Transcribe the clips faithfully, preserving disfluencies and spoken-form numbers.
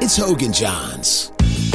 It's Hogan Johns.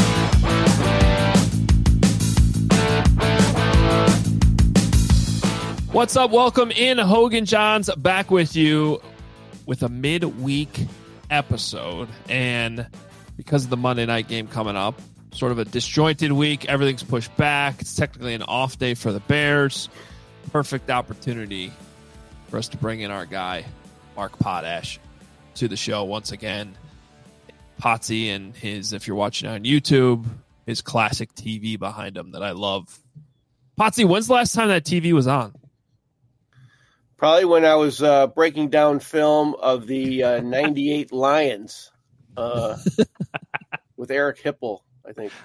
What's up? Welcome in, Hogan Johns, back with you with a midweek episode. And because of the Monday night game coming up, sort of a disjointed week, everything's pushed back. It's technically an off day for the Bears. Perfect opportunity for us to bring in our guy, Mark Potash, to the show once again. Potsy and his, if you're watching on YouTube, his classic T V behind him that I love. Potsy, when's the last time that T V was on? Probably when I was uh, breaking down film of the uh, ninety-eight Lions uh, with Eric Hipple, I think.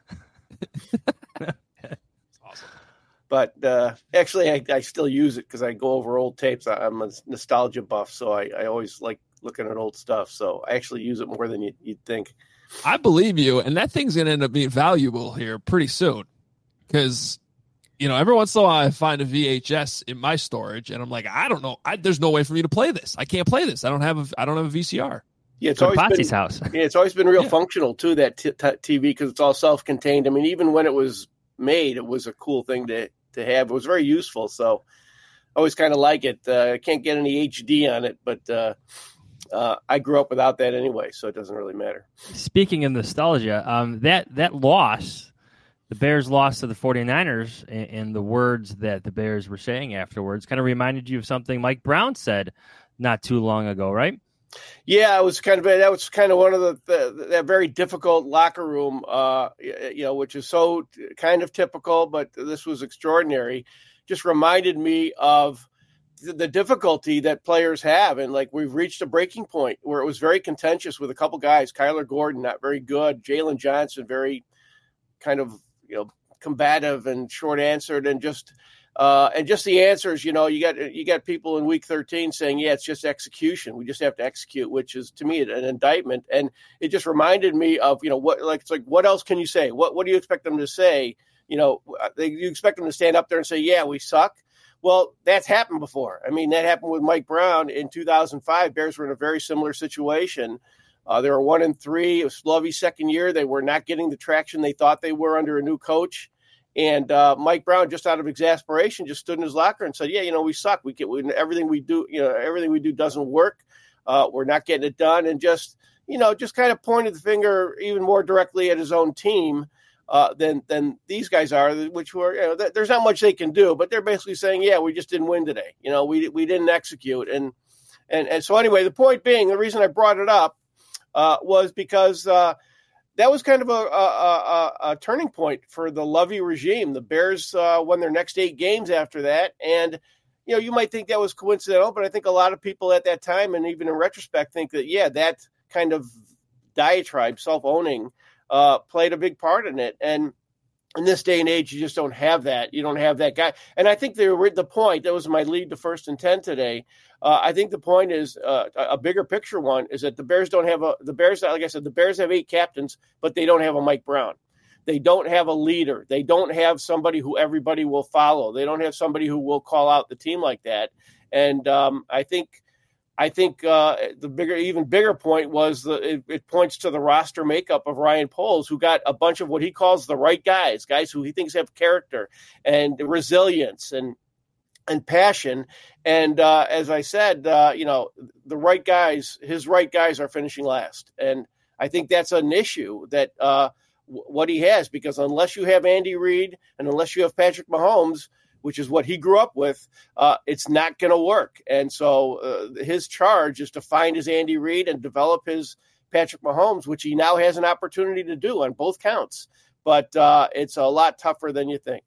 Awesome. But uh, actually, I, I still use it because I go over old tapes. I, I'm a nostalgia buff, so I, I always like looking at old stuff. So I actually use it more than you, you'd think. I believe you, and that thing's going to end up being valuable here pretty soon because – you know, every once in a while I find a V H S in my storage, and I'm like, I don't know. I, there's no way for me to play this. I can't play this. I don't have a. I don't have a V C R. Yeah, it's always Potsy's been, house. Yeah, it's always been real Yeah. functional too. That t- t- T V because it's all self-contained. I mean, even when it was made, it was a cool thing to to have. It was very useful. So I always kind of like it. Uh, I can't get any H D on it, but uh, uh, I grew up without that anyway, so it doesn't really matter. Speaking of nostalgia, um, that that loss. The Bears lost to the 49ers, and, and the words that the Bears were saying afterwards kind of reminded you of something Mike Brown said not too long ago, right? Yeah, it was kind of that was kind of one of the, the that very difficult locker room, uh, you know, which is so kind of typical, but this was extraordinary. Just reminded me of the, the difficulty that players have, and like we've reached a breaking point where it was very contentious with a couple guys. Kyler Gordon, not very good. Jalen Johnson, very kind of you know, combative and short answered, and just uh, and just the answers. You know, you got you got people in week thirteen saying, "Yeah, it's just execution. We just have to execute," which is to me an indictment. And it just reminded me of you know what like it's like what else can you say? What what do you expect them to say? You know, they, you expect them to stand up there and say, "Yeah, we suck." Well, that's happened before. I mean, that happened with Mike Brown in two thousand five. Bears were in a very similar situation. Uh, they were one and three. It was Lovey's second year. They were not getting the traction they thought they were under a new coach. And uh, Mike Brown, just out of exasperation, just stood in his locker and said, "Yeah, you know, we suck. We get we, everything we do. You know, everything we do doesn't work. Uh, we're not getting it done." And just, you know, just kind of pointed the finger even more directly at his own team uh, than than these guys are, which were, you know, th- there's not much they can do, but they're basically saying, "Yeah, we just didn't win today. You know, we we didn't execute." And and and so anyway, the point being, the reason I brought it up. Uh, was because uh, that was kind of a, a, a, a turning point for the Lovey regime. The Bears uh, won their next eight games after that. And, you know, you might think that was coincidental, but I think a lot of people at that time, and even in retrospect, think that, yeah, that kind of diatribe, self-owning, uh, played a big part in it. And in this day and age, you just don't have that. You don't have that guy. And I think the, the point, that was my lead to first and ten today, Uh, I think the point is uh, a bigger picture one is that the Bears don't have a the Bears. Like I said, the Bears have eight captains, but they don't have a Mike Brown. They don't have a leader. They don't have somebody who everybody will follow. They don't have somebody who will call out the team like that. And um, I think I think uh, the bigger, even bigger point was the it, it points to the roster makeup of Ryan Poles, who got a bunch of what he calls the right guys, guys who he thinks have character and resilience and. and passion. And uh, as I said, uh, you know, the right guys, his right guys are finishing last. And I think that's an issue that uh, w- what he has, because unless you have Andy Reid and unless you have Patrick Mahomes, which is what he grew up with, uh, it's not going to work. And so uh, his charge is to find his Andy Reid and develop his Patrick Mahomes, which he now has an opportunity to do on both counts. But uh, it's a lot tougher than you think.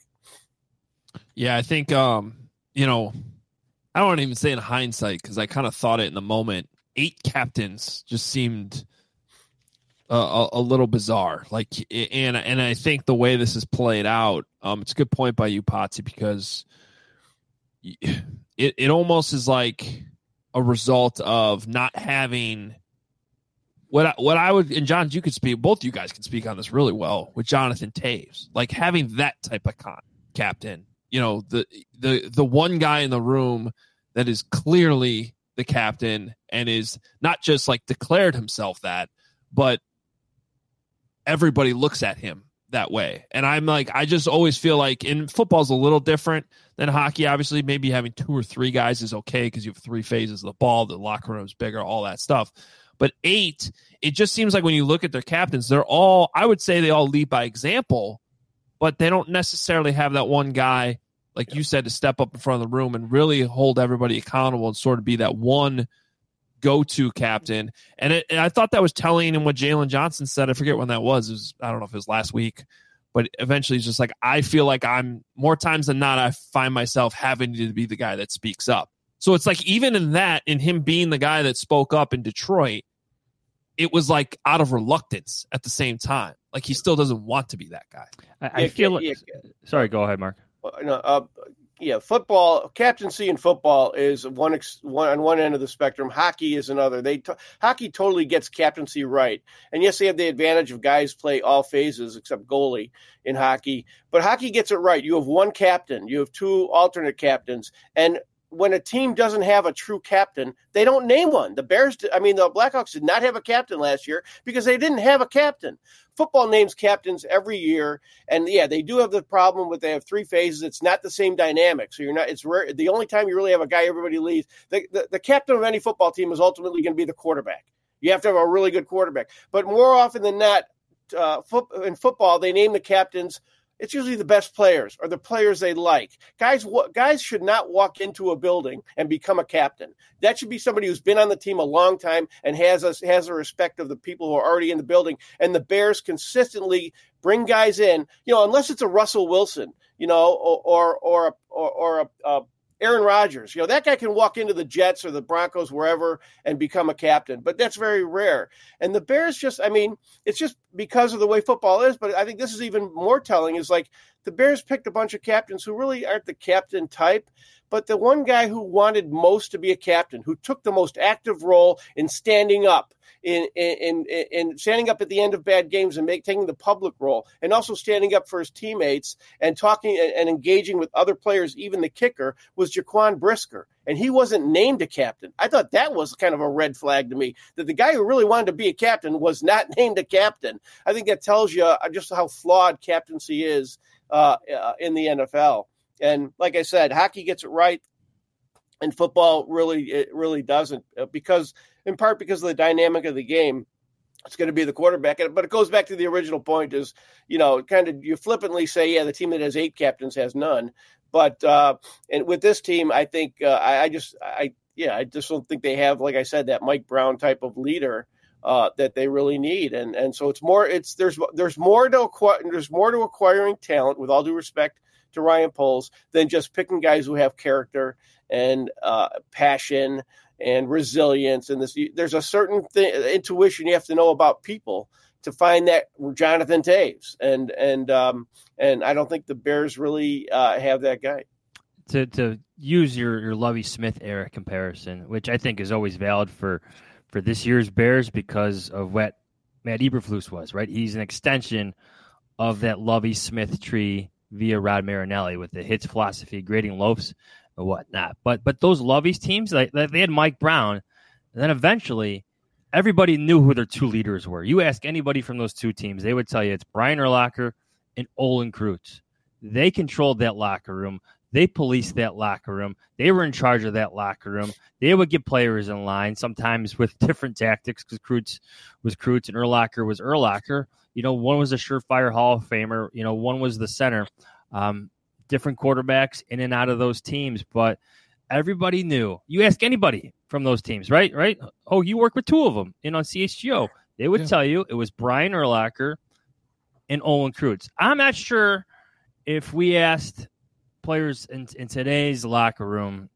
Yeah, I think, um, you know, I don't want to even say in hindsight because I kind of thought it in the moment. Eight captains just seemed uh, a, a little bizarre. Like, and and I think the way this is played out, um, it's a good point by you, Potsy, because it it almost is like a result of not having what I, what I would, and John, you could speak, both you guys can speak on this really well with Jonathan Taves, like having that type of con, captain. You know, the the the one guy in the room that is clearly the captain and is not just like declared himself that, but everybody looks at him that way. And I'm like, I just always feel like in football's a little different than hockey. Obviously, maybe having two or three guys is okay because you have three phases of the ball, the locker room's bigger, all that stuff. But eight, it just seems like when you look at their captains, they're all, I would say they all lead by example, but they don't necessarily have that one guy, like you said, to step up in front of the room and really hold everybody accountable and sort of be that one go-to captain. And, it, and I thought that was telling in what Jalen Johnson said. I forget when that was. It was. I don't know if it was last week, but eventually he's just like, I feel like I'm more times than not, I find myself having to be the guy that speaks up. So it's like, even in that, in him being the guy that spoke up in Detroit, it was like out of reluctance at the same time. Like he still doesn't want to be that guy. I, I yeah, feel like, yeah. Sorry, go ahead, Mark. No, uh, yeah, football, captaincy in football is one, one on one end of the spectrum. Hockey is another. They t- hockey totally gets captaincy right. And yes, they have the advantage of guys play all phases except goalie in hockey. But hockey gets it right. You have one captain. You have two alternate captains. And when a team doesn't have a true captain, they don't name one. The Bears, I mean, the Blackhawks did not have a captain last year because they didn't have a captain. Football names captains every year, and yeah, they do have the problem with they have three phases. It's not the same dynamic, so you're not. It's rare. The only time you really have a guy everybody leaves. The, the, the captain of any football team is ultimately going to be the quarterback. You have to have a really good quarterback, but more often than not, uh, foot, in football they name the captains. It's usually the best players or the players they like. Guys, guys should not walk into a building and become a captain. That should be somebody who's been on the team a long time and has a, has a respect of the people who are already in the building. And the Bears consistently bring guys in, you know, unless it's a Russell Wilson, you know, or or or or, or a, a Aaron Rodgers. You know, that guy can walk into the Jets or the Broncos, wherever, and become a captain. But that's very rare. And the Bears just, I mean, it's just because of the way football is. But I think this is even more telling is like the Bears picked a bunch of captains who really aren't the captain type. But the one guy who wanted most to be a captain, who took the most active role in standing up, in in in, in standing up at the end of bad games and make, taking the public role, and also standing up for his teammates and talking and, and engaging with other players, even the kicker, was Jaquan Brisker. And he wasn't named a captain. I thought that was kind of a red flag to me, that the guy who really wanted to be a captain was not named a captain. I think that tells you just how flawed captaincy is uh, uh, in the N F L. And like I said, hockey gets it right, and football really it really doesn't, because in part because of the dynamic of the game. It's going to be the quarterback. But it goes back to the original point is, you know, kind of you flippantly say, yeah, the team that has eight captains has none. But uh, and with this team, I think uh, I, I just I yeah, I just don't think they have, like I said, that Mike Brown type of leader uh, that they really need. And and so it's more it's there's there's more to acquire, there's more to acquiring talent, with all due respect to Ryan Poles, than just picking guys who have character and uh, passion and resilience. And this, there's a certain th- intuition you have to know about people to find that Jonathan Toews. And and um, and I don't think the Bears really uh, have that guy. To to use your, your Lovie Smith era comparison, which I think is always valid for for this year's Bears because of what Matt Eberflus was, right? He's an extension of that Lovie Smith tree via Rod Marinelli with the hits philosophy, grading loafs and whatnot. But but those Lovie's teams, like, they had Mike Brown, and then eventually everybody knew who their two leaders were. You ask anybody from those two teams, they would tell you it's Brian Urlacher and Olin Kreutz. They controlled that locker room. They policed that locker room. They were in charge of that locker room. They would get players in line, sometimes with different tactics, because Kreutz was Kreutz and Urlacher was Urlacher. You know, one was a surefire Hall of Famer. You know, one was the center. Um, different quarterbacks in and out of those teams, but everybody knew. You ask anybody from those teams, right? Right? Oh, you work with two of them in on C H G O. They would yeah. tell you it was Brian Urlacher and Olin Kreutz. I'm not sure if we asked players in, in today's locker room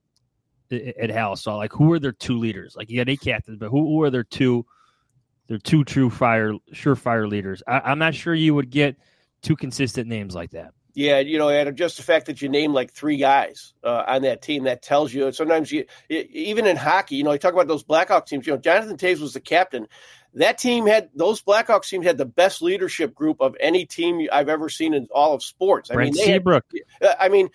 at Hal Saw, like, who are their two leaders? Like, you got eight captains, but who, who are their two? Their two true fire, surefire leaders. I, I'm not sure you would get two consistent names like that. Yeah, you know, and just the fact that you name like three guys uh, on that team, that tells you. Sometimes you, even in hockey, you know, you talk about those Blackhawks teams. You know, Jonathan Toews was the captain. That team had those Blackhawks teams had the best leadership group of any team I've ever seen in all of sports. I Brent mean, they Seabrook. Had, I mean,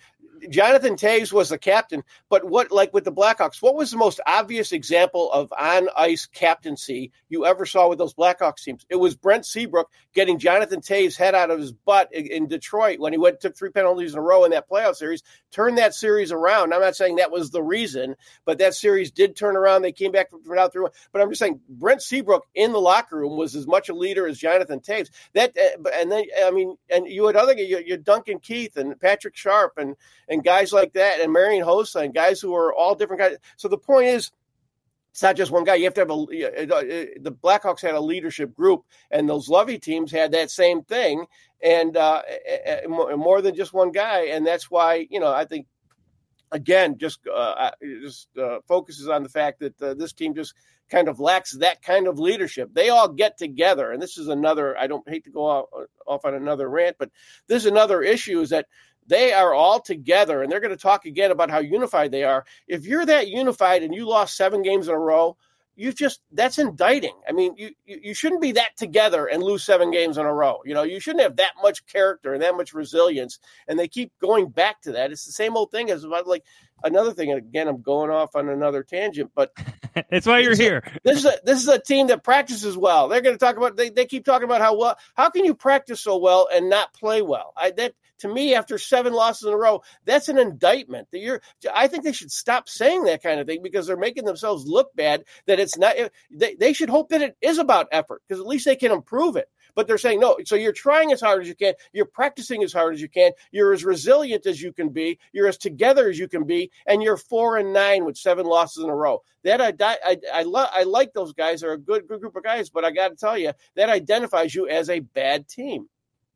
Jonathan Toews was the captain, but what, like with the Blackhawks, what was the most obvious example of on-ice captaincy you ever saw with those Blackhawks teams? It was Brent Seabrook getting Jonathan Toews' head out of his butt in, in Detroit when he went took three penalties in a row in that playoff series, turned that series around. I'm not saying that was the reason, but that series did turn around. They came back from out through. But I'm just saying Brent Seabrook in the locker room was as much a leader as Jonathan Toews. That uh, and then I mean, and you had other you, you Duncan Keith and Patrick Sharp and and guys like that, and Marian Hossa and guys who are all different guys. So the point is, it's not just one guy. You have to have a. The Blackhawks had a leadership group, and those Lovey teams had that same thing, and uh, more than just one guy. And that's why, you know, I think, again, just uh, just uh, focuses on the fact that uh, this team just kind of lacks that kind of leadership. They all get together, and this is another. I don't hate to go off, off on another rant, but this is another issue: is that they are all together, and they're going to talk again about how unified they are. If you're that unified and you lost seven games in a row, you just that's indicting. I mean, you, you you shouldn't be that together and lose seven games in a row. You know, you shouldn't have that much character and that much resilience. And they keep going back to that. It's the same old thing as about like another thing. And again, I'm going off on another tangent, but it's why you're here. A, this is a this is a team that practices well. They're going to talk about. They they keep talking about how well. How can you practice so well and not play well? I that. To me, after seven losses in a row, that's an indictment. That you're, I think they should stop saying that kind of thing because they're making themselves look bad. That it's not. They, they should hope that it is about effort because at least they can improve it. But they're saying no. So you're trying as hard as you can. You're practicing as hard as you can. You're as resilient as you can be. You're as together as you can be. And you're four and nine with seven losses in a row. That I I I, lo- I like those guys. They're a good good group of guys. But I got to tell you, that identifies you as a bad team.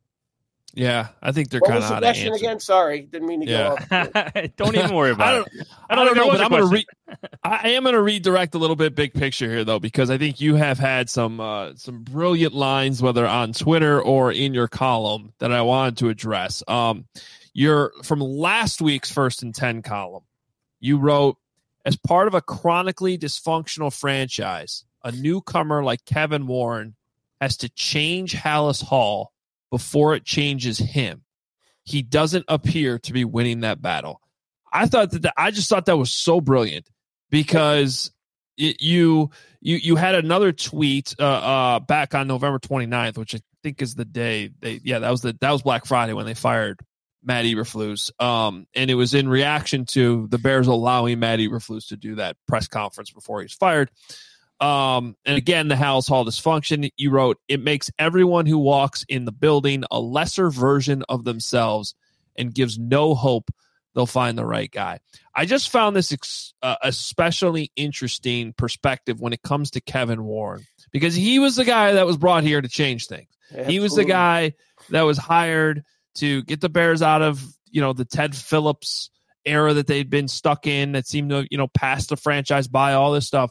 Yeah, I think they're what kind was of the out of question answer. Again? Sorry, didn't mean to yeah. go off. Don't even worry about I don't, it. I don't, I don't know, but I'm going to re- I am going to redirect a little bit big picture here, though, because I think you have had some uh, some brilliant lines, whether on Twitter or in your column, that I wanted to address. Um, you're from last week's First and Ten column. You wrote, as part of a chronically dysfunctional franchise, a newcomer like Kevin Warren has to change Halas Hall before it changes him. He doesn't appear to be winning that battle. I thought that the, I just thought that was so brilliant because it, you you you had another tweet uh, uh, back on November twenty-ninth, which I think is the day they yeah that was the that was Black Friday when they fired Matt Eberflus, um, and it was in reaction to the Bears allowing Matt Eberflus to do that press conference before he was fired. Um, and again, the Halas Hall dysfunction, you wrote, it makes everyone who walks in the building a lesser version of themselves and gives no hope they'll find the right guy. I just found this ex- uh, especially interesting perspective when it comes to Kevin Warren, because he was the guy that was brought here to change things. Absolutely. He was the guy that was hired to get the Bears out of, you know, the Ted Phillips era that they'd been stuck in that seemed to, you know, pass the franchise by, all this stuff.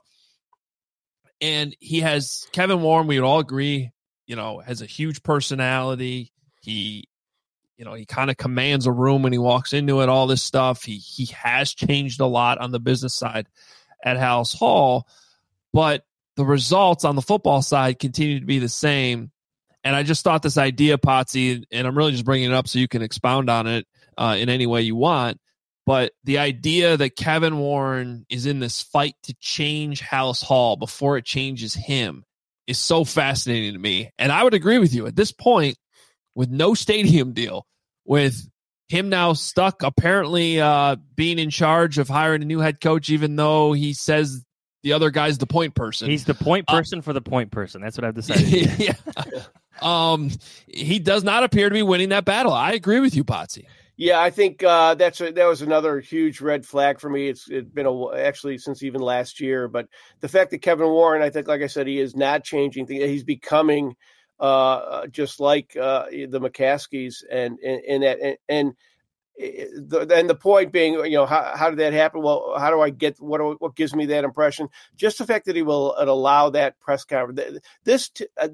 And he has Kevin Warren, we would all agree, you know, has a huge personality. He, you know, he kind of commands a room when he walks into it, all this stuff. He he has changed a lot on the business side at Halas Hall, but the results on the football side continue to be the same. And I just thought this idea, Potsy, and I'm really just bringing it up so you can expound on it uh, in any way you want. But the idea that Kevin Warren is in this fight to change Halas Hall before it changes him is so fascinating to me. And I would agree with you at this point, with no stadium deal, with him now stuck apparently uh, being in charge of hiring a new head coach, even though he says the other guy's the point person. He's the point person uh, for the point person. That's what I've decided. yeah. um, he does not appear to be winning that battle. I agree with you, Potsy. Yeah, I think uh, that's a, that was another huge red flag for me. It's it's been a, actually since even last year, but the fact that Kevin Warren, I think, like I said, he is not changing things. He's becoming uh, just like uh, the McCaskies, and and and that, and, and the, and the point being, you know, how how did that happen? Well, how do I get what what gives me that impression? Just the fact that he will allow that press conference. This uh, the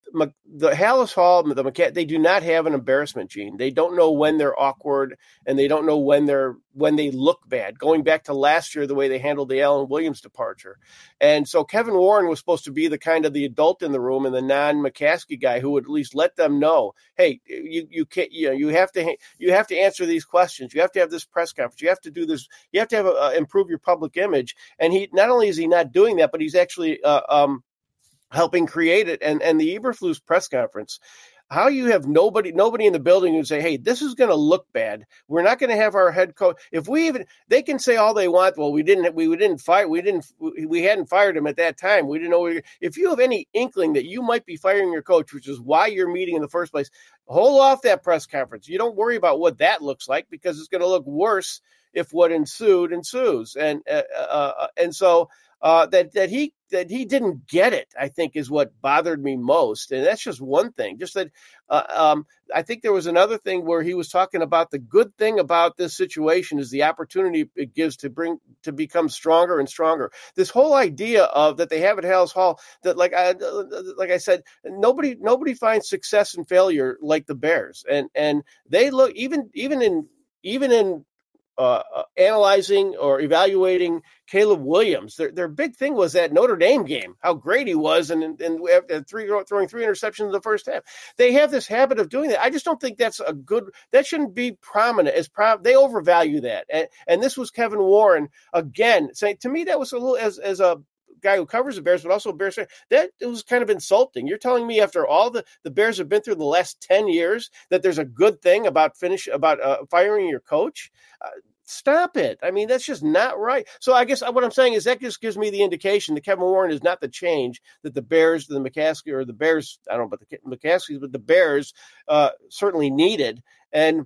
the Halas Hall, the McCa- they do not have an embarrassment gene. They don't know when they're awkward, and they don't know when they're when they look bad. Going back to last year, the way they handled the Alan Williams departure, and so Kevin Warren was supposed to be the kind of the adult in the room and the non-McCaskey guy who would at least let them know, hey, you you can't you know you have to you have to answer these questions. You have to have this press conference. You have to do this. You have to have a, uh, improve your public image. And he not only is he not doing that, but he's actually uh, um. helping create it. And and the Eberflus press conference, how you have nobody nobody in the building who say, hey, this is going to look bad. We're not going to have our head coach. If we even, they can say all they want. Well, we didn't, we, we didn't fire, we didn't, we hadn't fired him at that time. We didn't know. We, if you have any inkling that you might be firing your coach, which is why you're meeting in the first place, hold off that press conference. You don't worry about what that looks like, because it's going to look worse if what ensued ensues. And, uh, uh, and so, Uh, that that he that he didn't get it, I think, is what bothered me most, and that's just one thing. Just that uh, um, I think there was another thing where he was talking about the good thing about this situation is the opportunity it gives to bring to become stronger and stronger. This whole idea of that they have at Halas Hall, that like I like I said, nobody nobody finds success and failure like the Bears, and and they look even even in even in. Uh, uh, analyzing or evaluating Caleb Williams. Their their big thing was that Notre Dame game, how great he was, and and, and three throwing three interceptions in the first half. They have this habit of doing that. I just don't think that's a good. That shouldn't be prominent as pro. They overvalue that, and and this was Kevin Warren again saying to me that was a little as as a guy who covers the Bears, but also a Bears fan, that it was kind of insulting. You're telling me after all the, the Bears have been through the last ten years that there's a good thing about finish about uh, firing your coach? Uh, stop it. I mean, that's just not right. So I guess what I'm saying is that just gives me the indication that Kevin Warren is not the change that the Bears, the McCaskey, or the Bears, I don't know about the McCaskeys, but the Bears uh, certainly needed. And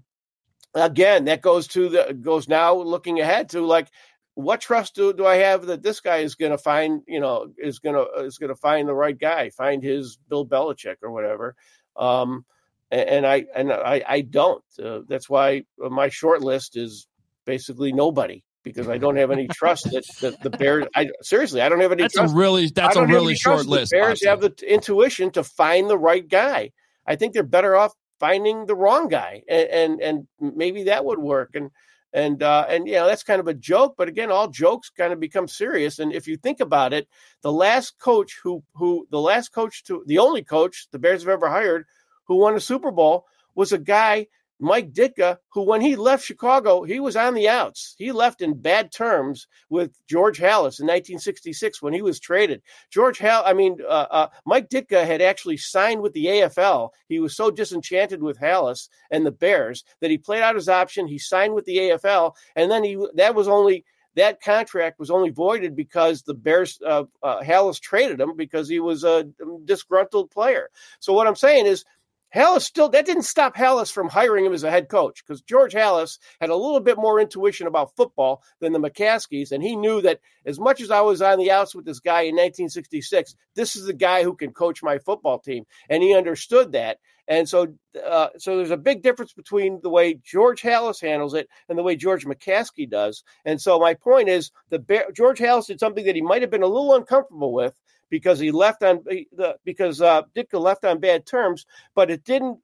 again, that goes to the goes now looking ahead to like, what trust do, do I have that this guy is going to find, you know, is going to is going to find the right guy, find his Bill Belichick or whatever. Um, and, and I and I, I don't. Uh, that's why my short list is basically nobody, because I don't have any trust that, that the Bears. I seriously, I don't have any. That's trust. a really that's a really short list. The Bears have the intuition to find the right guy. I think they're better off finding the wrong guy, and and, and maybe that would work. And. And, uh, and, you know, that's kind of a joke, but again, all jokes kind of become serious. And if you think about it, the last coach who, who the last coach to the only coach the Bears have ever hired who won a Super Bowl was a guy, Mike Ditka, who when he left Chicago, he was on the outs. He left in bad terms with George Halas in nineteen sixty-six when he was traded. George Hal, I mean, uh, uh, Mike Ditka had actually signed with the A F L. He was so disenchanted with Halas and the Bears that he played out his option. He signed with the A F L, and then he that was only that contract was only voided because the Bears uh, uh, Halas traded him because he was a disgruntled player. So what I'm saying is, Halas still, that didn't stop Halas from hiring him as a head coach, because George Halas had a little bit more intuition about football than the McCaskies, and he knew that as much as I was on the outs with this guy in nineteen sixty-six, this is the guy who can coach my football team, and he understood that. And so uh, so there's a big difference between the way George Halas handles it and the way George McCaskey does. And so my point is, the Bear, George Halas did something that he might have been a little uncomfortable with, because he left on the because uh, Ditka left on bad terms, but it didn't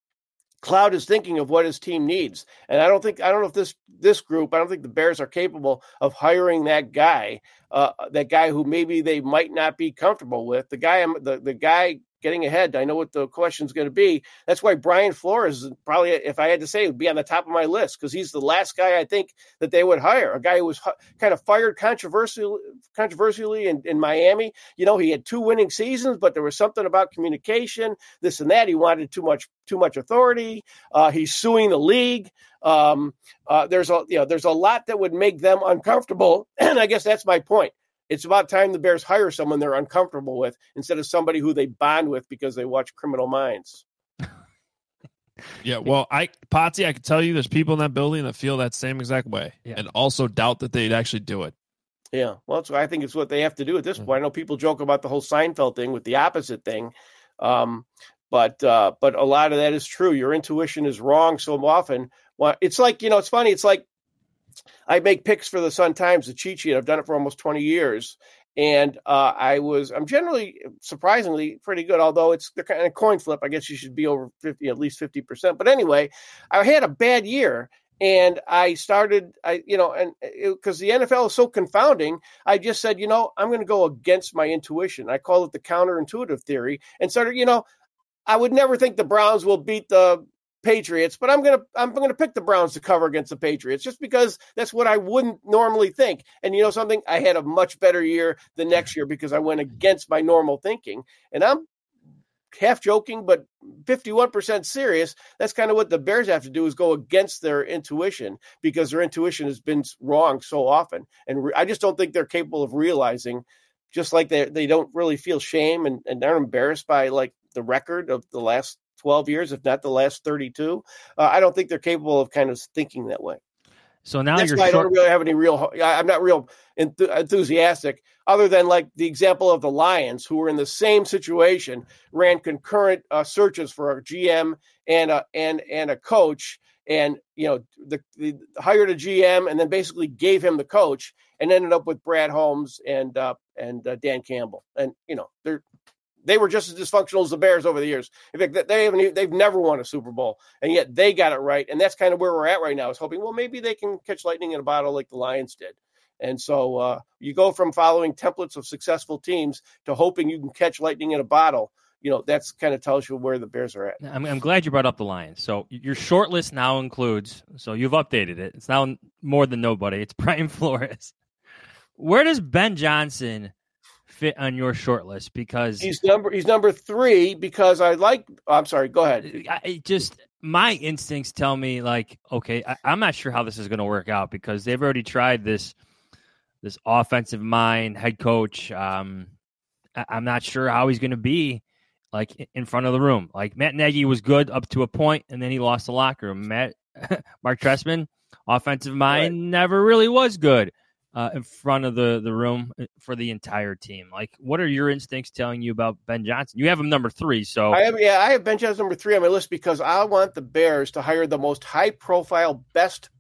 cloud his thinking of what his team needs. And I don't think I don't know if this this group I don't think the Bears are capable of hiring that guy, uh, that guy who maybe they might not be comfortable with. The guy the the guy. Getting ahead, I know what the question is going to be. That's why Brian Flores, probably, if I had to say, would be on the top of my list, because he's the last guy I think that they would hire, a guy who was kind of fired controversially, controversially in, in Miami. You know, he had two winning seasons, but there was something about communication, this and that. He wanted too much, too much authority. Uh, he's suing the league. Um, uh, there's a, you know, there's a lot that would make them uncomfortable, and I guess that's my point. It's about time the Bears hire someone they're uncomfortable with instead of somebody who they bond with because they watch Criminal Minds. Yeah, well, I Potsy, I can tell you there's people in that building that feel that same exact way, yeah, and also doubt that they'd actually do it. Yeah, well, so I think it's what they have to do at this mm-hmm. point. I know people joke about the whole Seinfeld thing with the opposite thing, um, but uh, but a lot of that is true. Your intuition is wrong so often. Well, it's like, you know, it's funny. It's like, I make picks for the Sun Times, the cheat sheet. I've done it for almost twenty years. And uh, I was, I'm generally surprisingly pretty good, although it's the kind of coin flip. I guess you should be over fifty, at least fifty percent. But anyway, I had a bad year. And I started, I, you know, and because the N F L is so confounding, I just said, you know, I'm going to go against my intuition. I call it the counterintuitive theory, and started, you know, I would never think the Browns will beat the Patriots, but I'm going to, I'm going to pick the Browns to cover against the Patriots just because that's what I wouldn't normally think. And you know something, I had a much better year the next year because I went against my normal thinking, and I'm half joking, but fifty-one percent serious. That's kind of what the Bears have to do, is go against their intuition, because their intuition has been wrong so often. And re- I just don't think they're capable of realizing, just like they they don't really feel shame and, and they're embarrassed by like the record of the last twelve years, if not the last thirty-two. Uh, I don't think they're capable of kind of thinking that way. So now That's you're why short- I don't really have any real, I'm not real enth- enthusiastic, other than like the example of the Lions, who were in the same situation, ran concurrent uh, searches for a G M and a, and, and a coach. And, you know, the, the hired a G M and then basically gave him the coach, and ended up with Brad Holmes and, uh, and uh, Dan Campbell. And, you know, they're, They were just as dysfunctional as the Bears over the years. In fact, they haven't, they've never won a Super Bowl, and yet they got it right. And that's kind of where we're at right now, is hoping, well, maybe they can catch lightning in a bottle like the Lions did. And so uh, you go from following templates of successful teams to hoping you can catch lightning in a bottle. You know, that's kind of tells you where the Bears are at. I'm, I'm glad you brought up the Lions. So your short list now includes, so you've updated it. It's now more than nobody. It's Brian Flores. Where does Ben Johnson fit on your short list? Because he's number he's number three because I like. Oh, I'm sorry. Go ahead. I just my instincts tell me like, okay, I, I'm not sure how this is going to work out, because they've already tried this this offensive mind head coach. Um, I, I'm not sure how he's going to be like in front of the room. Like Matt Nagy was good up to a point, and then he lost the locker room. Matt Mark Trestman, offensive mind, right, never really was good Uh, in front of the, the room for the entire team. Like, what are your instincts telling you about Ben Johnson? You have him number three, so I have, yeah, I have Ben Johnson number three on my list because I want the Bears to hire the most high profile, best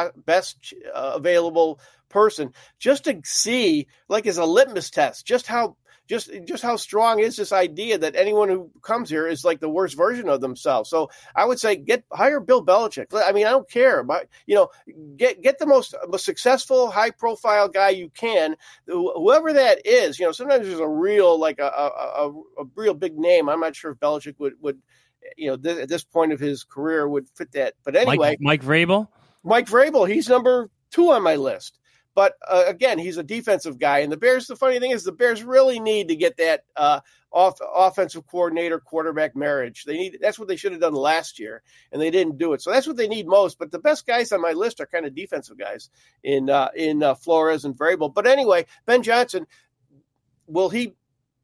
best uh, available person, just to see, like, as a litmus test, just how just just how strong is this idea that anyone who comes here is like the worst version of themselves. So I would say get hire Bill Belichick. I mean, I don't care, but you know, get get the most, most successful, high profile guy you can, whoever that is. You know, sometimes there's a real like a a, a, a real big name. I'm not sure if Belichick would would you know th- at this point of his career would fit that. But anyway, Mike, Mike Vrabel, Mike Vrabel, he's number two on my list. But uh, again, he's a defensive guy, and the Bears. The funny thing is, the Bears really need to get that uh, off offensive coordinator quarterback marriage. They need that's what they should have done last year, and they didn't do it. So that's what they need most. But the best guys on my list are kind of defensive guys in uh, in uh, Flores and Vrabel. But anyway, Ben Johnson, will he?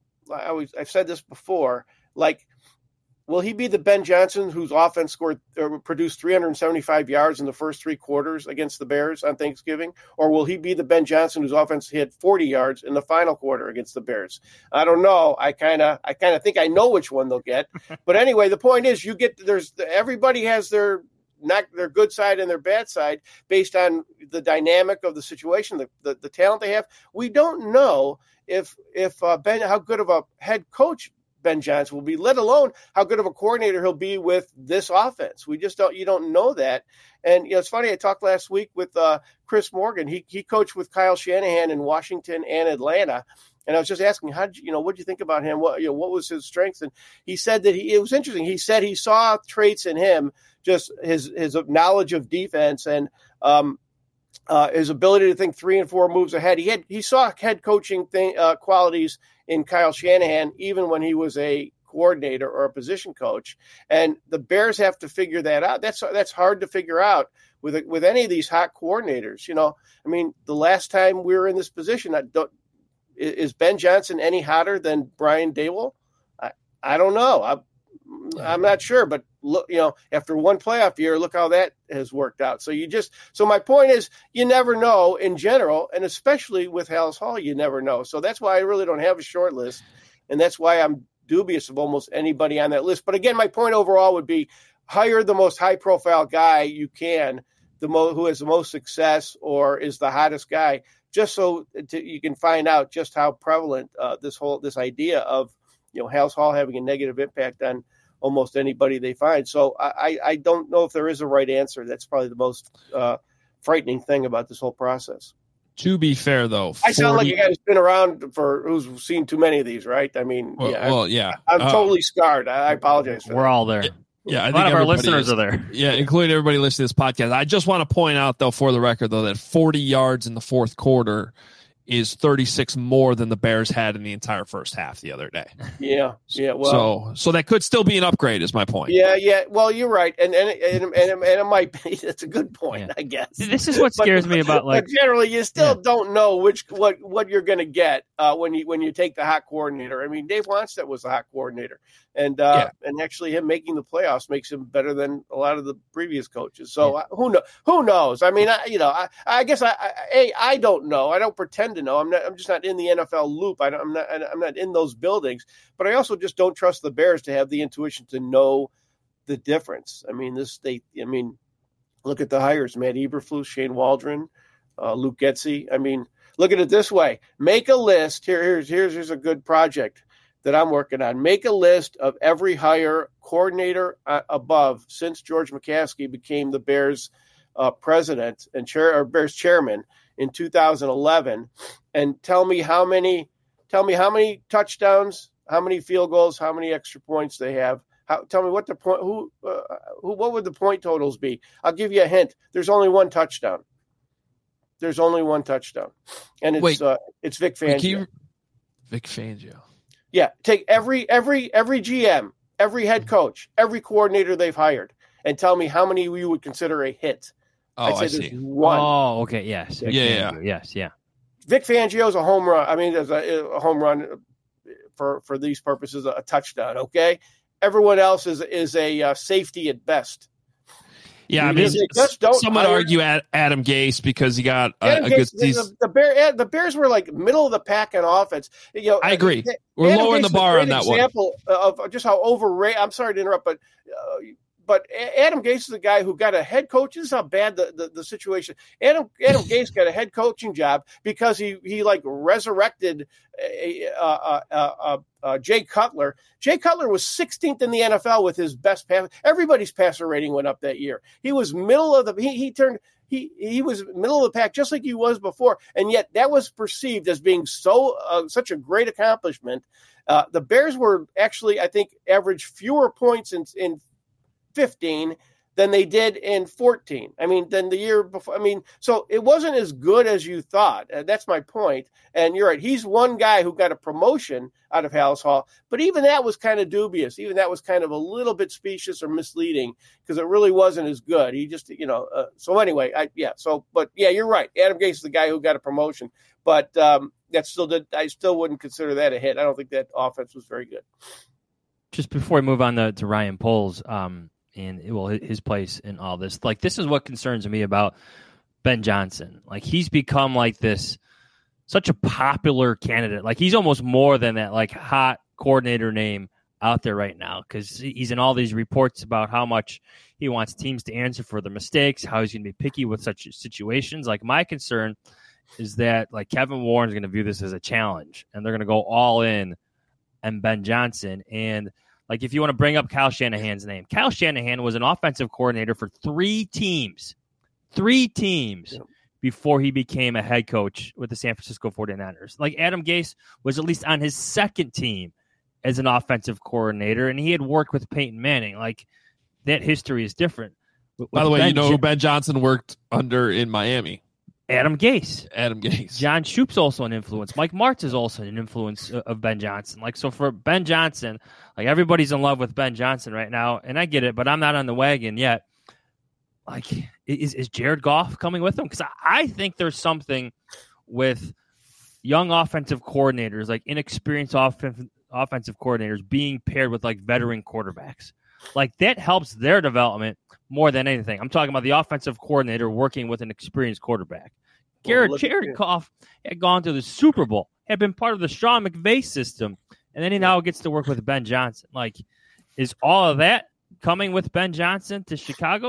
I always I've said this before, like. Will he be the Ben Johnson whose offense scored or produced three hundred seventy-five yards in the first three quarters against the Bears on Thanksgiving? Or will he be the Ben Johnson whose offense hit forty yards in the final quarter against the Bears? I don't know. I kind of I kind of think I know which one they'll get. But anyway, the point is you get there's everybody has their not their good side and their bad side based on the dynamic of the situation, the the, the talent they have. We don't know if if uh, Ben how good of a head coach Ben Johnson will be, let alone how good of a coordinator he'll be with this offense. We just don't, you don't know that. And, you know, it's funny. I talked last week with uh, Chris Morgan. He he coached with Kyle Shanahan in Washington and Atlanta. And I was just asking, how did you, you know, what did you think about him? What, you know, what was his strength? And he said that he, it was interesting. He said he saw traits in him, just his, his knowledge of defense and, um, Uh, his ability to think three and four moves ahead. He had he saw head coaching thing, uh, qualities in Kyle Shanahan, even when he was a coordinator or a position coach. And the Bears have to figure that out. That's that's hard to figure out with with any of these hot coordinators. You know, I mean, the last time we were in this position, I don't, is Ben Johnson any hotter than Brian Daboll? I I don't know. I, I'm not sure, but look, you know, after one playoff year, look how that has worked out. So you just, so my point is, you never know in general, and especially with Halas Hall, you never know. So that's why I really don't have a short list, and that's why I'm dubious of almost anybody on that list. But again, my point overall would be hire the most high-profile guy you can, the mo- who has the most success or is the hottest guy. just so to, you can find out just how prevalent uh, this whole this idea of you know Halas Hall having a negative impact on almost anybody they find. So I, I don't know if there is a right answer. That's probably the most uh, frightening thing about this whole process. To be fair, though, I sound like a guy who's been around for who's seen too many of these, right? I mean, well, yeah, well, yeah. I'm, I'm uh, totally scarred. I, I apologize. For we're that. all there. Yeah, I a think lot of our listeners is, are there. Yeah, including everybody listening to this podcast. I just want to point out, though, for the record, though, that forty yards in the fourth quarter is thirty-six more than the Bears had in the entire first half the other day. Yeah, yeah. Well, so so that could still be an upgrade, is my point. Yeah, yeah. Well, you're right, and and and and, and it might be. That's a good point, yeah. I guess. This is what scares but, me about like. But generally, you still yeah. don't know which what what you're going to get uh, when you when you take the hot coordinator. I mean, Dave Wannstedt was the hot coordinator, and uh, yeah. and actually him making the playoffs makes him better than a lot of the previous coaches. So yeah. uh, who know who knows? I mean, I, you know, I, I guess I, I a I don't know. I don't pretend to know. I'm not. I'm just not in the N F L loop. I don't, I'm not. I'm not in those buildings. But I also just don't trust the Bears to have the intuition to know the difference. I mean, this they. I mean, look at the hires: Matt Eberflus, Shane Waldron, uh, Luke Getsy. I mean, look at it this way: make a list. Here, here's here's here's a good project that I'm working on. Make a list of every hire coordinator uh, above since George McCaskey became the Bears uh, president and chair or Bears chairman in two thousand eleven, and tell me how many. Tell me how many touchdowns, how many field goals, how many extra points they have. How, tell me what the point, who, uh, who, what would the point totals be? I'll give you a hint. There's only one touchdown. There's only one touchdown, and it's Wait, uh, it's Vic Fangio. You, Vic Fangio. Yeah, take every every every G M, every head coach, every coordinator they've hired, and tell me how many you would consider a hit. Oh, I'd say I there's see. One. Oh, okay, yes, yeah, yeah, yeah, yes, yeah. Vic Fangio's a home run. I mean, there's a, a home run for, for these purposes, a touchdown. Okay, everyone else is is a uh, safety at best. Yeah, I mean, just don't some would argue at Adam Gase because he got a, a good. The, the, Bear, the Bears were like middle of the pack in offense. You know, I agree. We're Adam lowering Gase the bar on that example one. Of just how overrated. I'm sorry to interrupt, but. Uh, But Adam Gase is a guy who got a head coach. This is how bad the, the, the situation. Adam Adam Gase got a head coaching job because he he like resurrected uh, uh, uh, uh, uh, Jay Cutler. Jay Cutler was sixteenth in the N F L with his best pass. Everybody's passer rating went up that year. He was middle of the. He he turned. He he was middle of the pack just like he was before, and yet that was perceived as being so uh, such a great accomplishment. Uh, the Bears were actually, I think, averaged fewer points in in. fifteen than they did in fourteen. I mean, than the year before. I mean, so it wasn't as good as you thought. Uh, that's my point. And you're right. He's one guy who got a promotion out of Halas Hall, but even that was kind of dubious. Even that was kind of a little bit specious or misleading because it really wasn't as good. He just, you know, uh, so anyway, I, yeah. So, but yeah, you're right. Adam Gase is the guy who got a promotion, but um, that still did. I still wouldn't consider that a hit. I don't think that offense was very good. Just before we move on to, to Ryan Poles, um, and well, his place in all this. Like, this is what concerns me about Ben Johnson. Like, he's become like this, such a popular candidate. Like, he's almost more than that, like, hot coordinator name out there right now because he's in all these reports about how much he wants teams to answer for their mistakes, how he's going to be picky with such situations. Like, my concern is that, like, Kevin Warren's going to view this as a challenge, and they're going to go all in on Ben Johnson. And like, if you want to bring up Kyle Shanahan's name, Kyle Shanahan was an offensive coordinator for three teams, three teams yeah. before he became a head coach with the San Francisco forty-niners. Like, Adam Gase was at least on his second team as an offensive coordinator, and he had worked with Peyton Manning. Like, that history is different. With By the way, Ben you know J- who Ben Johnson worked under in Miami? Adam Gase. Adam Gase. John Shoop's also an influence. Mike Martz is also an influence of Ben Johnson. Like, so for Ben Johnson, like, everybody's in love with Ben Johnson right now, and I get it, but I'm not on the wagon yet. Like, is is Jared Goff coming with him? Because I, I think there's something with young offensive coordinators, like inexperienced off- offensive coordinators, being paired with, like, veteran quarterbacks. Like, that helps their development more than anything. I'm talking about the offensive coordinator working with an experienced quarterback. Garrett, well, Jared Goff had gone to the Super Bowl, had been part of the Sean McVay system, and then he now gets to work with Ben Johnson. Like, is all of that coming with Ben Johnson to Chicago? Like,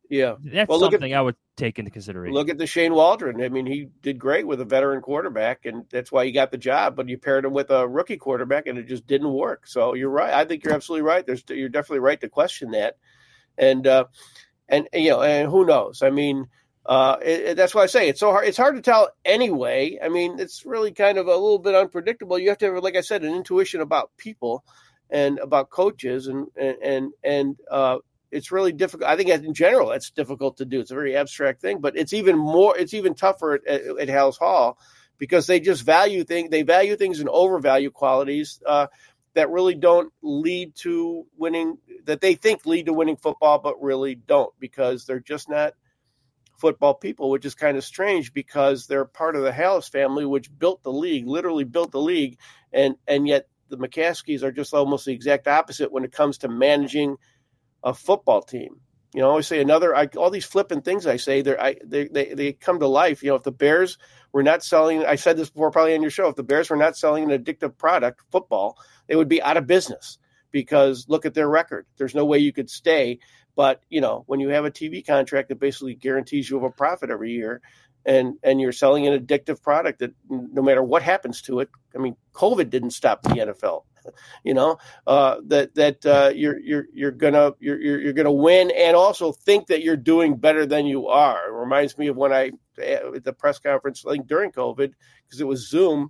Yeah, that's well, look something at, I would take into consideration. Look at the Shane Waldron. I mean, he did great with a veteran quarterback, and that's why he got the job. But you paired him with a rookie quarterback, and it just didn't work. So you're right. I think you're absolutely right. There's you're definitely right to question that, and uh, and you know, and who knows? I mean, uh, it, it, that's why I say it's so hard. It's hard to tell anyway. I mean, it's really kind of a little bit unpredictable. You have to have, like I said, an intuition about people and about coaches, and and and and. Uh, It's really difficult. I think in general, it's difficult to do. It's a very abstract thing, but it's even more, it's even tougher at, at, at Hales Hall because they just value things. They value things and overvalue qualities uh, that really don't lead to winning, that they think lead to winning football, but really don't because they're just not football people, which is kind of strange because they're part of the Hales family, which built the league, literally built the league. And, and yet the McCaskies are just almost the exact opposite when it comes to managing a football team. You know, I always say another, I, all these flippant things I say, they're, I, they, they, they come to life. You know, if the Bears were not selling, I said this before probably on your show, if the Bears were not selling an addictive product, football, they would be out of business because look at their record. There's no way you could stay. But, you know, when you have a T V contract that basically guarantees you a profit every year and, and you're selling an addictive product that no matter what happens to it, I mean, COVID didn't stop the N F L. You know, uh, that that uh, you're you're you're gonna you're you're gonna win, and also think that you're doing better than you are. It reminds me of when I at the press conference, I think during COVID, because it was Zoom.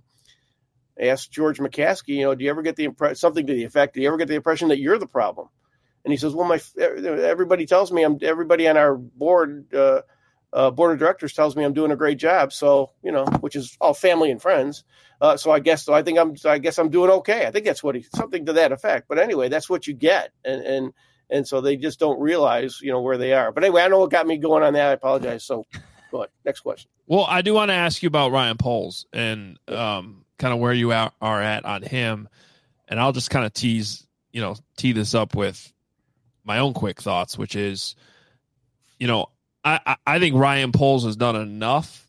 I asked George McCaskey, you know, do you ever get the impression something to the effect? Do you ever get the impression that you're the problem? And he says, well, my everybody tells me I'm everybody on our board. Uh, Uh, board of directors tells me I'm doing a great job. So, you know, which is all family and friends. Uh, so I guess, so I think I'm, I guess I'm doing okay. I think that's what he, something to that effect. But anyway, that's what you get. And, and, and so they just don't realize, you know, where they are. But anyway, I know what got me going on that. I apologize. So go ahead. Next question. Well, I do want to ask you about Ryan Poles and um, kind of where you are, are at on him. And I'll just kind of tease, you know, tee this up with my own quick thoughts, which is, you know, I, I think Ryan Poles has done enough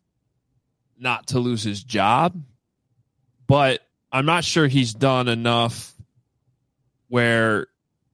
not to lose his job, but I'm not sure he's done enough where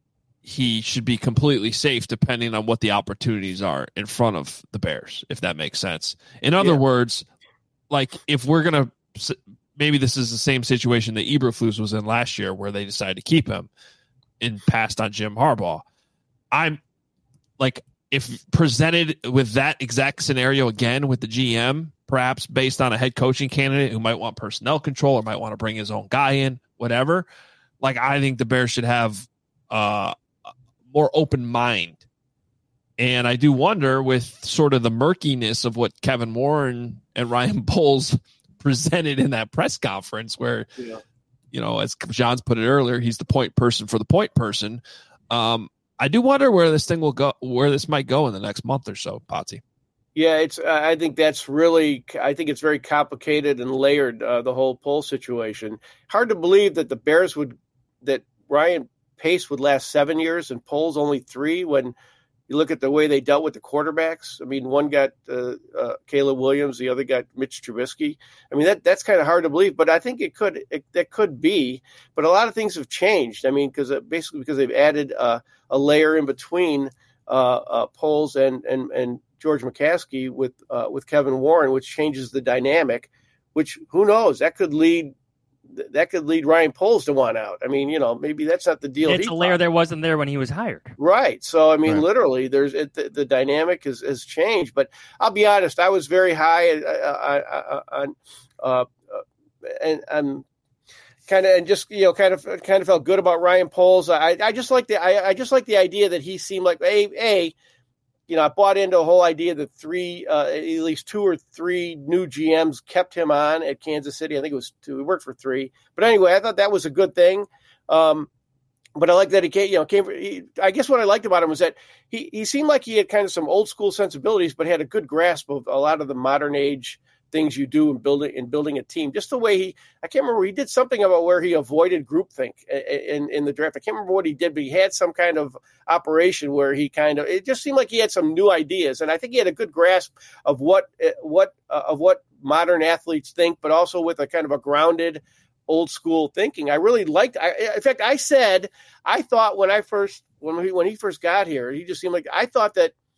he should be completely safe depending on what the opportunities are in front of the Bears, if that makes sense. In other yeah. words, like if we're going to – maybe this is the same situation that Eberflus was in last year where they decided to keep him and passed on Jim Harbaugh. I'm like – if presented with that exact scenario again with the G M, perhaps based on a head coaching candidate who might want personnel control or might want to bring his own guy in, whatever, like I think the Bears should have uh, a more open mind. And I do wonder with sort of the murkiness of what Kevin Warren and Ryan Poles presented in that press conference where, yeah. you know, as John's put it earlier, he's the point person for the point person. Um, I do wonder where this thing will go, where this might go in the next month or so, Potsy. Yeah, it's. Uh, I think that's really. I think it's very complicated and layered. Uh, the whole Poles situation. Hard to believe that the Bears would, that Ryan Pace would last seven years and Poles only three. When you look at the way they dealt with the quarterbacks, I mean, one got uh, uh, Caleb Williams, the other got Mitch Trubisky. I mean, that that's kind of hard to believe, but I think it could. It, that could be. But a lot of things have changed. I mean, because uh, basically because they've added uh, a layer in between uh, uh, Poles and and and George McCaskey with uh, with Kevin Warren, which changes the dynamic. Which who knows, that could lead. That could lead Ryan Poles to want out. I mean, you know, maybe that's not the deal. It's a layer that wasn't there when he was hired. Right. So, I mean, right. literally, there's it, the, the dynamic has, has changed. But I'll be honest, I was very high on, uh, uh, and I'm kind of and just you know kind of kind of felt good about Ryan Poles. I I just like the I, I just like the idea that he seemed like a a. You know, I bought into the whole idea that three, uh, at least two or three new G Ms kept him on at Kansas City. I think it was two. He worked for three. But anyway, I thought that was a good thing. Um, but I like that he came, you know, came. He, I guess what I liked about him was that he, he seemed like he had kind of some old school sensibilities, but had a good grasp of a lot of the modern age things you do in building in building a team. Just the way he, I can't remember, he did something about where he avoided groupthink in, in the draft. I can't remember what he did, but he had some kind of operation where he kind of, it just seemed like he had some new ideas. And I think he had a good grasp of what, what, uh, of what modern athletes think, but also with a kind of a grounded old school thinking. I really liked, I, in fact, I said, I thought when I first, when he, when he first got here, he just seemed like, I thought that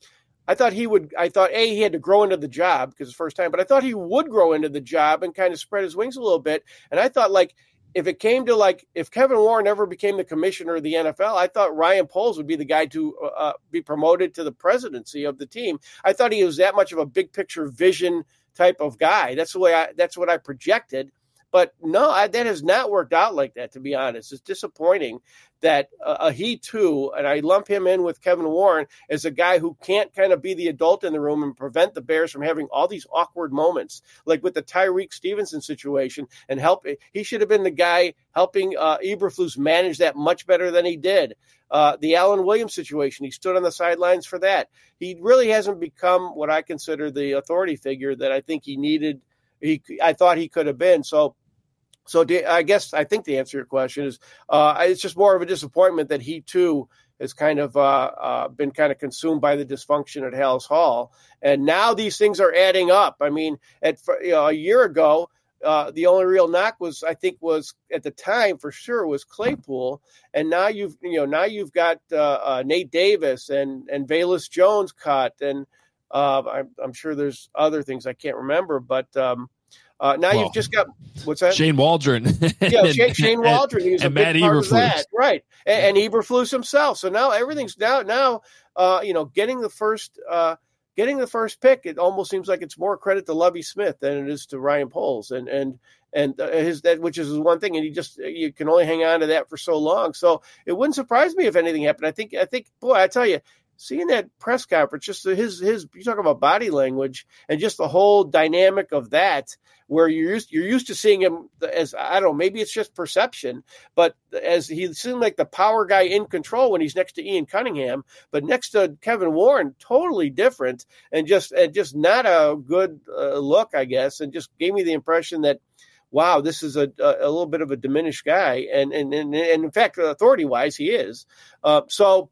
I thought he would, I thought, A, he had to grow into the job because it's the first time, but I thought he would grow into the job and kind of spread his wings a little bit. And I thought, like, if it came to, like, if Kevin Warren ever became the commissioner of the N F L, I thought Ryan Poles would be the guy to uh, be promoted to the presidency of the team. I thought he was that much of a big picture vision type of guy. That's the way I, that's what I projected. But no, I, that has not worked out like that, to be honest. It's disappointing that uh, he too, and I lump him in with Kevin Warren, as a guy who can't kind of be the adult in the room and prevent the Bears from having all these awkward moments, like with the Tyreek Stevenson situation, and help. He should have been the guy helping uh, Eberflus manage that much better than he did. Uh, the Alan Williams situation, he stood on the sidelines for that. He really hasn't become what I consider the authority figure that I think he needed. He, I thought he could have been. So. So I guess I think the answer to your question is uh, it's just more of a disappointment that he, too, has kind of uh, uh, been kind of consumed by the dysfunction at Halas Hall. And now these things are adding up. I mean, at you know, a year ago, uh, the only real knock was, I think, was at the time for sure was Claypool. And now you've, you know, now you've got uh, uh, Nate Davis and, and Velus Jones cut. And uh, I'm, I'm sure there's other things I can't remember, but um, Uh, now well, you've just got what's that? Shane Waldron. yeah, Shane, Shane Waldron. He's a big Matt part Eberflus. of that, right? And, and Eberflus himself. So now everything's now now uh, you know getting the first uh, getting the first pick. It almost seems like it's more credit to Lovie Smith than it is to Ryan Poles, and and and uh, his that which is one thing. And you just you can only hang on to that for so long. So it wouldn't surprise me if anything happened. I think I think boy, I tell you. Seeing that press conference, just his his you talk about body language and just the whole dynamic of that, where you're used you're used to seeing him as I don't know, maybe it's just perception, but as he seemed like the power guy in control when he's next to Ian Cunningham, but next to Kevin Warren, totally different and just and just not a good uh, look, I guess, and just gave me the impression that. Wow, this is a, a a little bit of a diminished guy, and and and, and in fact, authority wise, he is. Uh, so.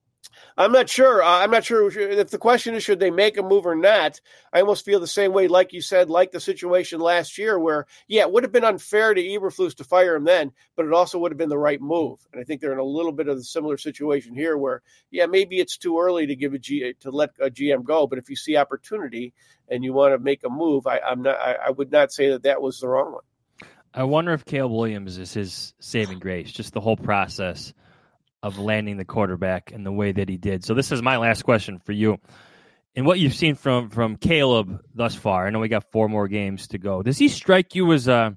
I'm not sure. Uh, I'm not sure if the question is, should they make a move or not? I almost feel the same way, like you said, like the situation last year where, yeah, it would have been unfair to Eberflus to fire him then, but it also would have been the right move. And I think they're in a little bit of a similar situation here where, yeah, maybe it's too early to give a G, to let a G M go. But if you see opportunity and you want to make a move, I, I'm not, I, I would not say that that was the wrong one. I wonder if Caleb Williams is his saving grace, just the whole process of landing the quarterback in the way that he did. So this is my last question for you. And what you've seen from from Caleb thus far, I know we got four more games to go. Does he strike you as a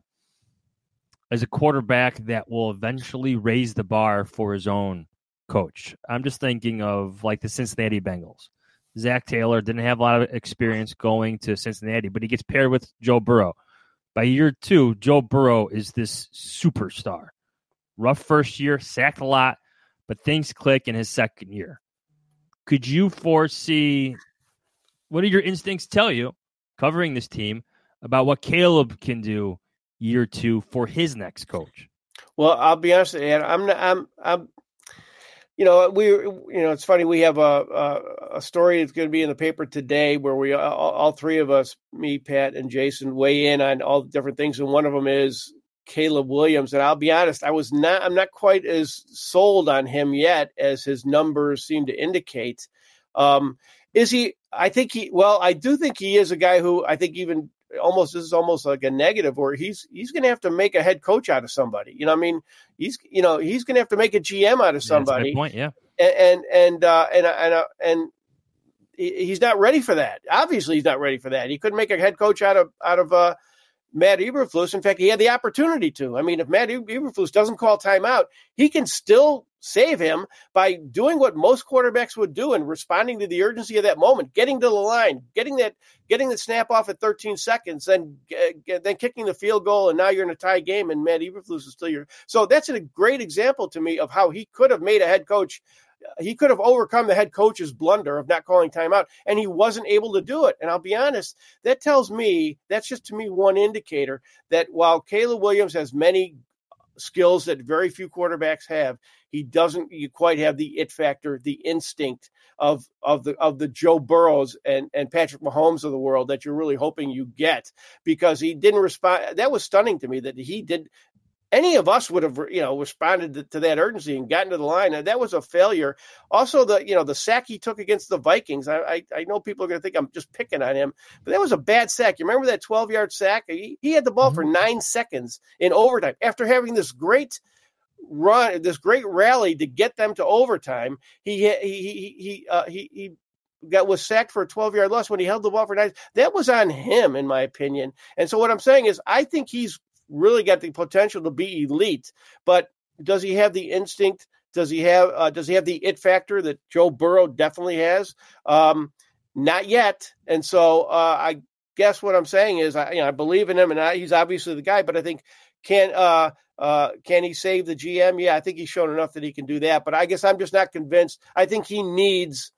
as a quarterback that will eventually raise the bar for his own coach? I'm just thinking of like the Cincinnati Bengals. Zach Taylor didn't have a lot of experience going to Cincinnati, but he gets paired with Joe Burrow. By year two, Joe Burrow is this superstar. Rough first year, sacked a lot, but things click in his second year. Could you foresee, what do your instincts tell you, covering this team, about what Caleb can do year two for his next coach? Well, I'll be honest, Ed, I'm not, I'm, I'm, you know, we, you know, it's funny. We have a, a, a story that's going to be in the paper today where we, all, all three of us, me, Pat, and Jason, weigh in on all the different things. And one of them is Caleb Williams. And I'll be honest, I was not, I'm not quite as sold on him yet as his numbers seem to indicate. Um, is he, I think he, well, I do think he is a guy who I think even almost, this is almost like a negative where he's, he's going to have to make a head coach out of somebody. You know what I mean? He's, you know, he's going to have to make a G M out of somebody. Yeah, that's my point, yeah. And, and, and, uh, and, and, uh, and he's not ready for that. Obviously he's not ready for that. He couldn't make a head coach out of, out of, uh, Matt Eberflus. In fact, he had the opportunity to. I mean, if Matt Eberflus doesn't call timeout, he can still save him by doing what most quarterbacks would do and responding to the urgency of that moment, getting to the line, getting that, getting the snap off at thirteen seconds, and uh, then kicking the field goal, and now you're in a tie game, and Matt Eberflus is still your. So that's a great example to me of how he could have made a head coach. He could have overcome the head coach's blunder of not calling timeout, and he wasn't able to do it. And I'll be honest, that tells me, that's just to me one indicator that while Caleb Williams has many skills that very few quarterbacks have, he doesn't you quite have the it factor, the instinct of of the of the Joe Burrows and, and Patrick Mahomes of the world that you're really hoping you get, because he didn't respond. That was stunning to me that he did. any of us would have, you know, responded to, to that urgency and gotten to the line. And that was a failure. Also, the, you know, the sack he took against the Vikings. I, I, I know people are going to think I'm just picking on him, but that was a bad sack. You remember that twelve yard sack? He, he had the ball mm-hmm. for nine seconds in overtime after having this great run, this great rally to get them to overtime. He, he, he, he, uh, he, he got was sacked for a twelve yard loss when he held the ball for nine. That was on him, in my opinion. And so what I'm saying is, I think he's really got the potential to be elite, but does he have the instinct? Does he have, uh, does he have the it factor that Joe Burrow definitely has? Um, not yet. And so uh, I guess what I'm saying is, I, you know, I believe in him, and I, he's obviously the guy, but I think can, uh, uh, can he save the G M? Yeah, I think he's shown enough that he can do that, but I guess I'm just not convinced. I think he needs,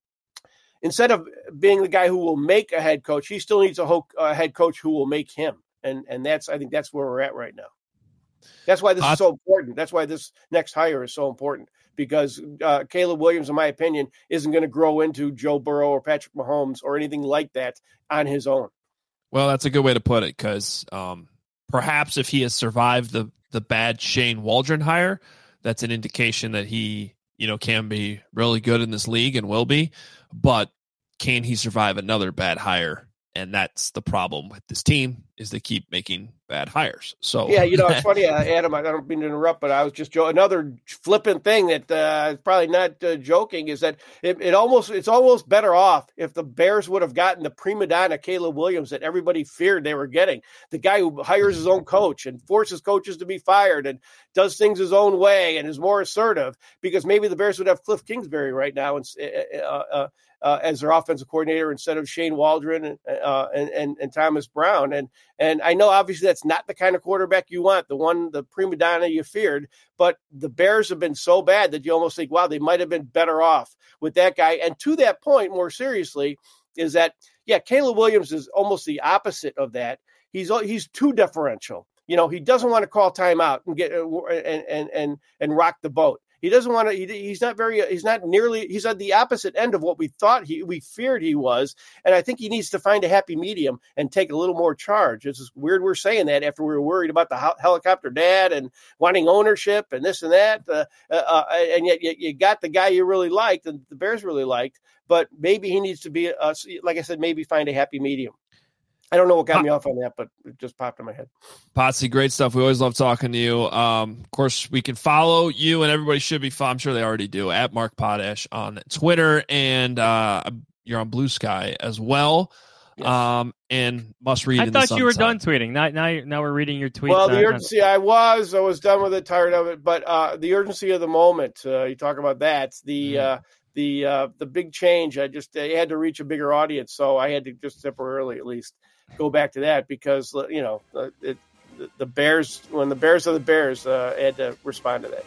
instead of being the guy who will make a head coach, he still needs a, ho- a head coach who will make him. And and that's I think that's where we're at right now. That's why this is so important. That's why this next hire is so important, because uh, Caleb Williams, in my opinion, isn't going to grow into Joe Burrow or Patrick Mahomes or anything like that on his own. Well, that's a good way to put it, because um, perhaps if he has survived the the bad Shane Waldron hire, that's an indication that he, you know, can be really good in this league and will be. But can he survive another bad hire? And that's the problem with this team, is they keep making bad hires. So yeah, you know, it's funny, uh, Adam, I don't mean to interrupt, but I was just joking. Another flippant thing that uh, is probably not uh, joking is that it, it almost it's almost better off if the Bears would have gotten the prima donna Caleb Williams that everybody feared they were getting, the guy who hires his own coach and forces coaches to be fired and does things his own way and is more assertive, because maybe the Bears would have Cliff Kingsbury right now and uh, uh, Uh, as their offensive coordinator instead of Shane Waldron and, uh, and, and, and Thomas Brown. And, and I know obviously that's not the kind of quarterback you want, the one, the prima donna you feared, but the Bears have been so bad that you almost think, wow, they might've been better off with that guy. And to that point, more seriously, is that, yeah, Caleb Williams is almost the opposite of that. He's, he's too deferential. You know, he doesn't want to call timeout and get, and, and, and, and rock the boat. He doesn't want to, he, he's not very, he's not nearly, he's at the opposite end of what we thought he, we feared he was. And I think he needs to find a happy medium and take a little more charge. It's just weird we're saying that after we were worried about the helicopter dad and wanting ownership and this and that. Uh, uh, and yet you, you got the guy you really liked and the Bears really liked, but maybe he needs to be, uh, like I said, maybe find a happy medium. I don't know what got me off on that, but it just popped in my head. Potsy, great stuff. We always love talking to you. Um, of course, we can follow you, and everybody should be, I'm sure they already do, at Mark Potash on Twitter, and uh, you're on Blue Sky as well. Yes. Um, and must read. I in thought the you were Sun done tweeting. Now, now, now we're reading your tweets. Well, the on, urgency, on... I was, I was done with it, tired of it, but uh, the urgency of the moment. Uh, you talk about that. The mm. uh, the uh, the big change. I just I had to reach a bigger audience, so I had to just temporarily, at least, go back to that, because you know it, the Bears, when the Bears are the Bears, uh, I had to respond to that.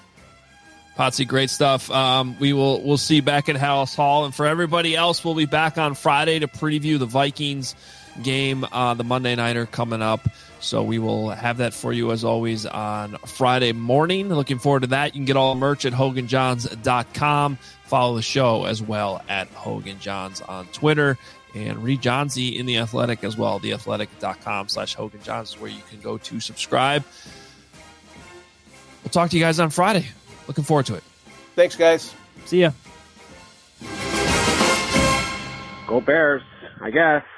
Potsy, great stuff. Um, we will we'll see you back at Halas Hall, and for everybody else, we'll be back on Friday to preview the Vikings game, uh, the Monday Nighter coming up. So we will have that for you as always on Friday morning. Looking forward to that. You can get all the merch at Hogan Johns dot com. Follow the show as well at Hogan Johns on Twitter. And read Johnsy in The Athletic as well. The athletic dot com slash Hogan Johns is where you can go to subscribe. We'll talk to you guys on Friday. Looking forward to it. Thanks, guys. See ya. Go Bears, I guess.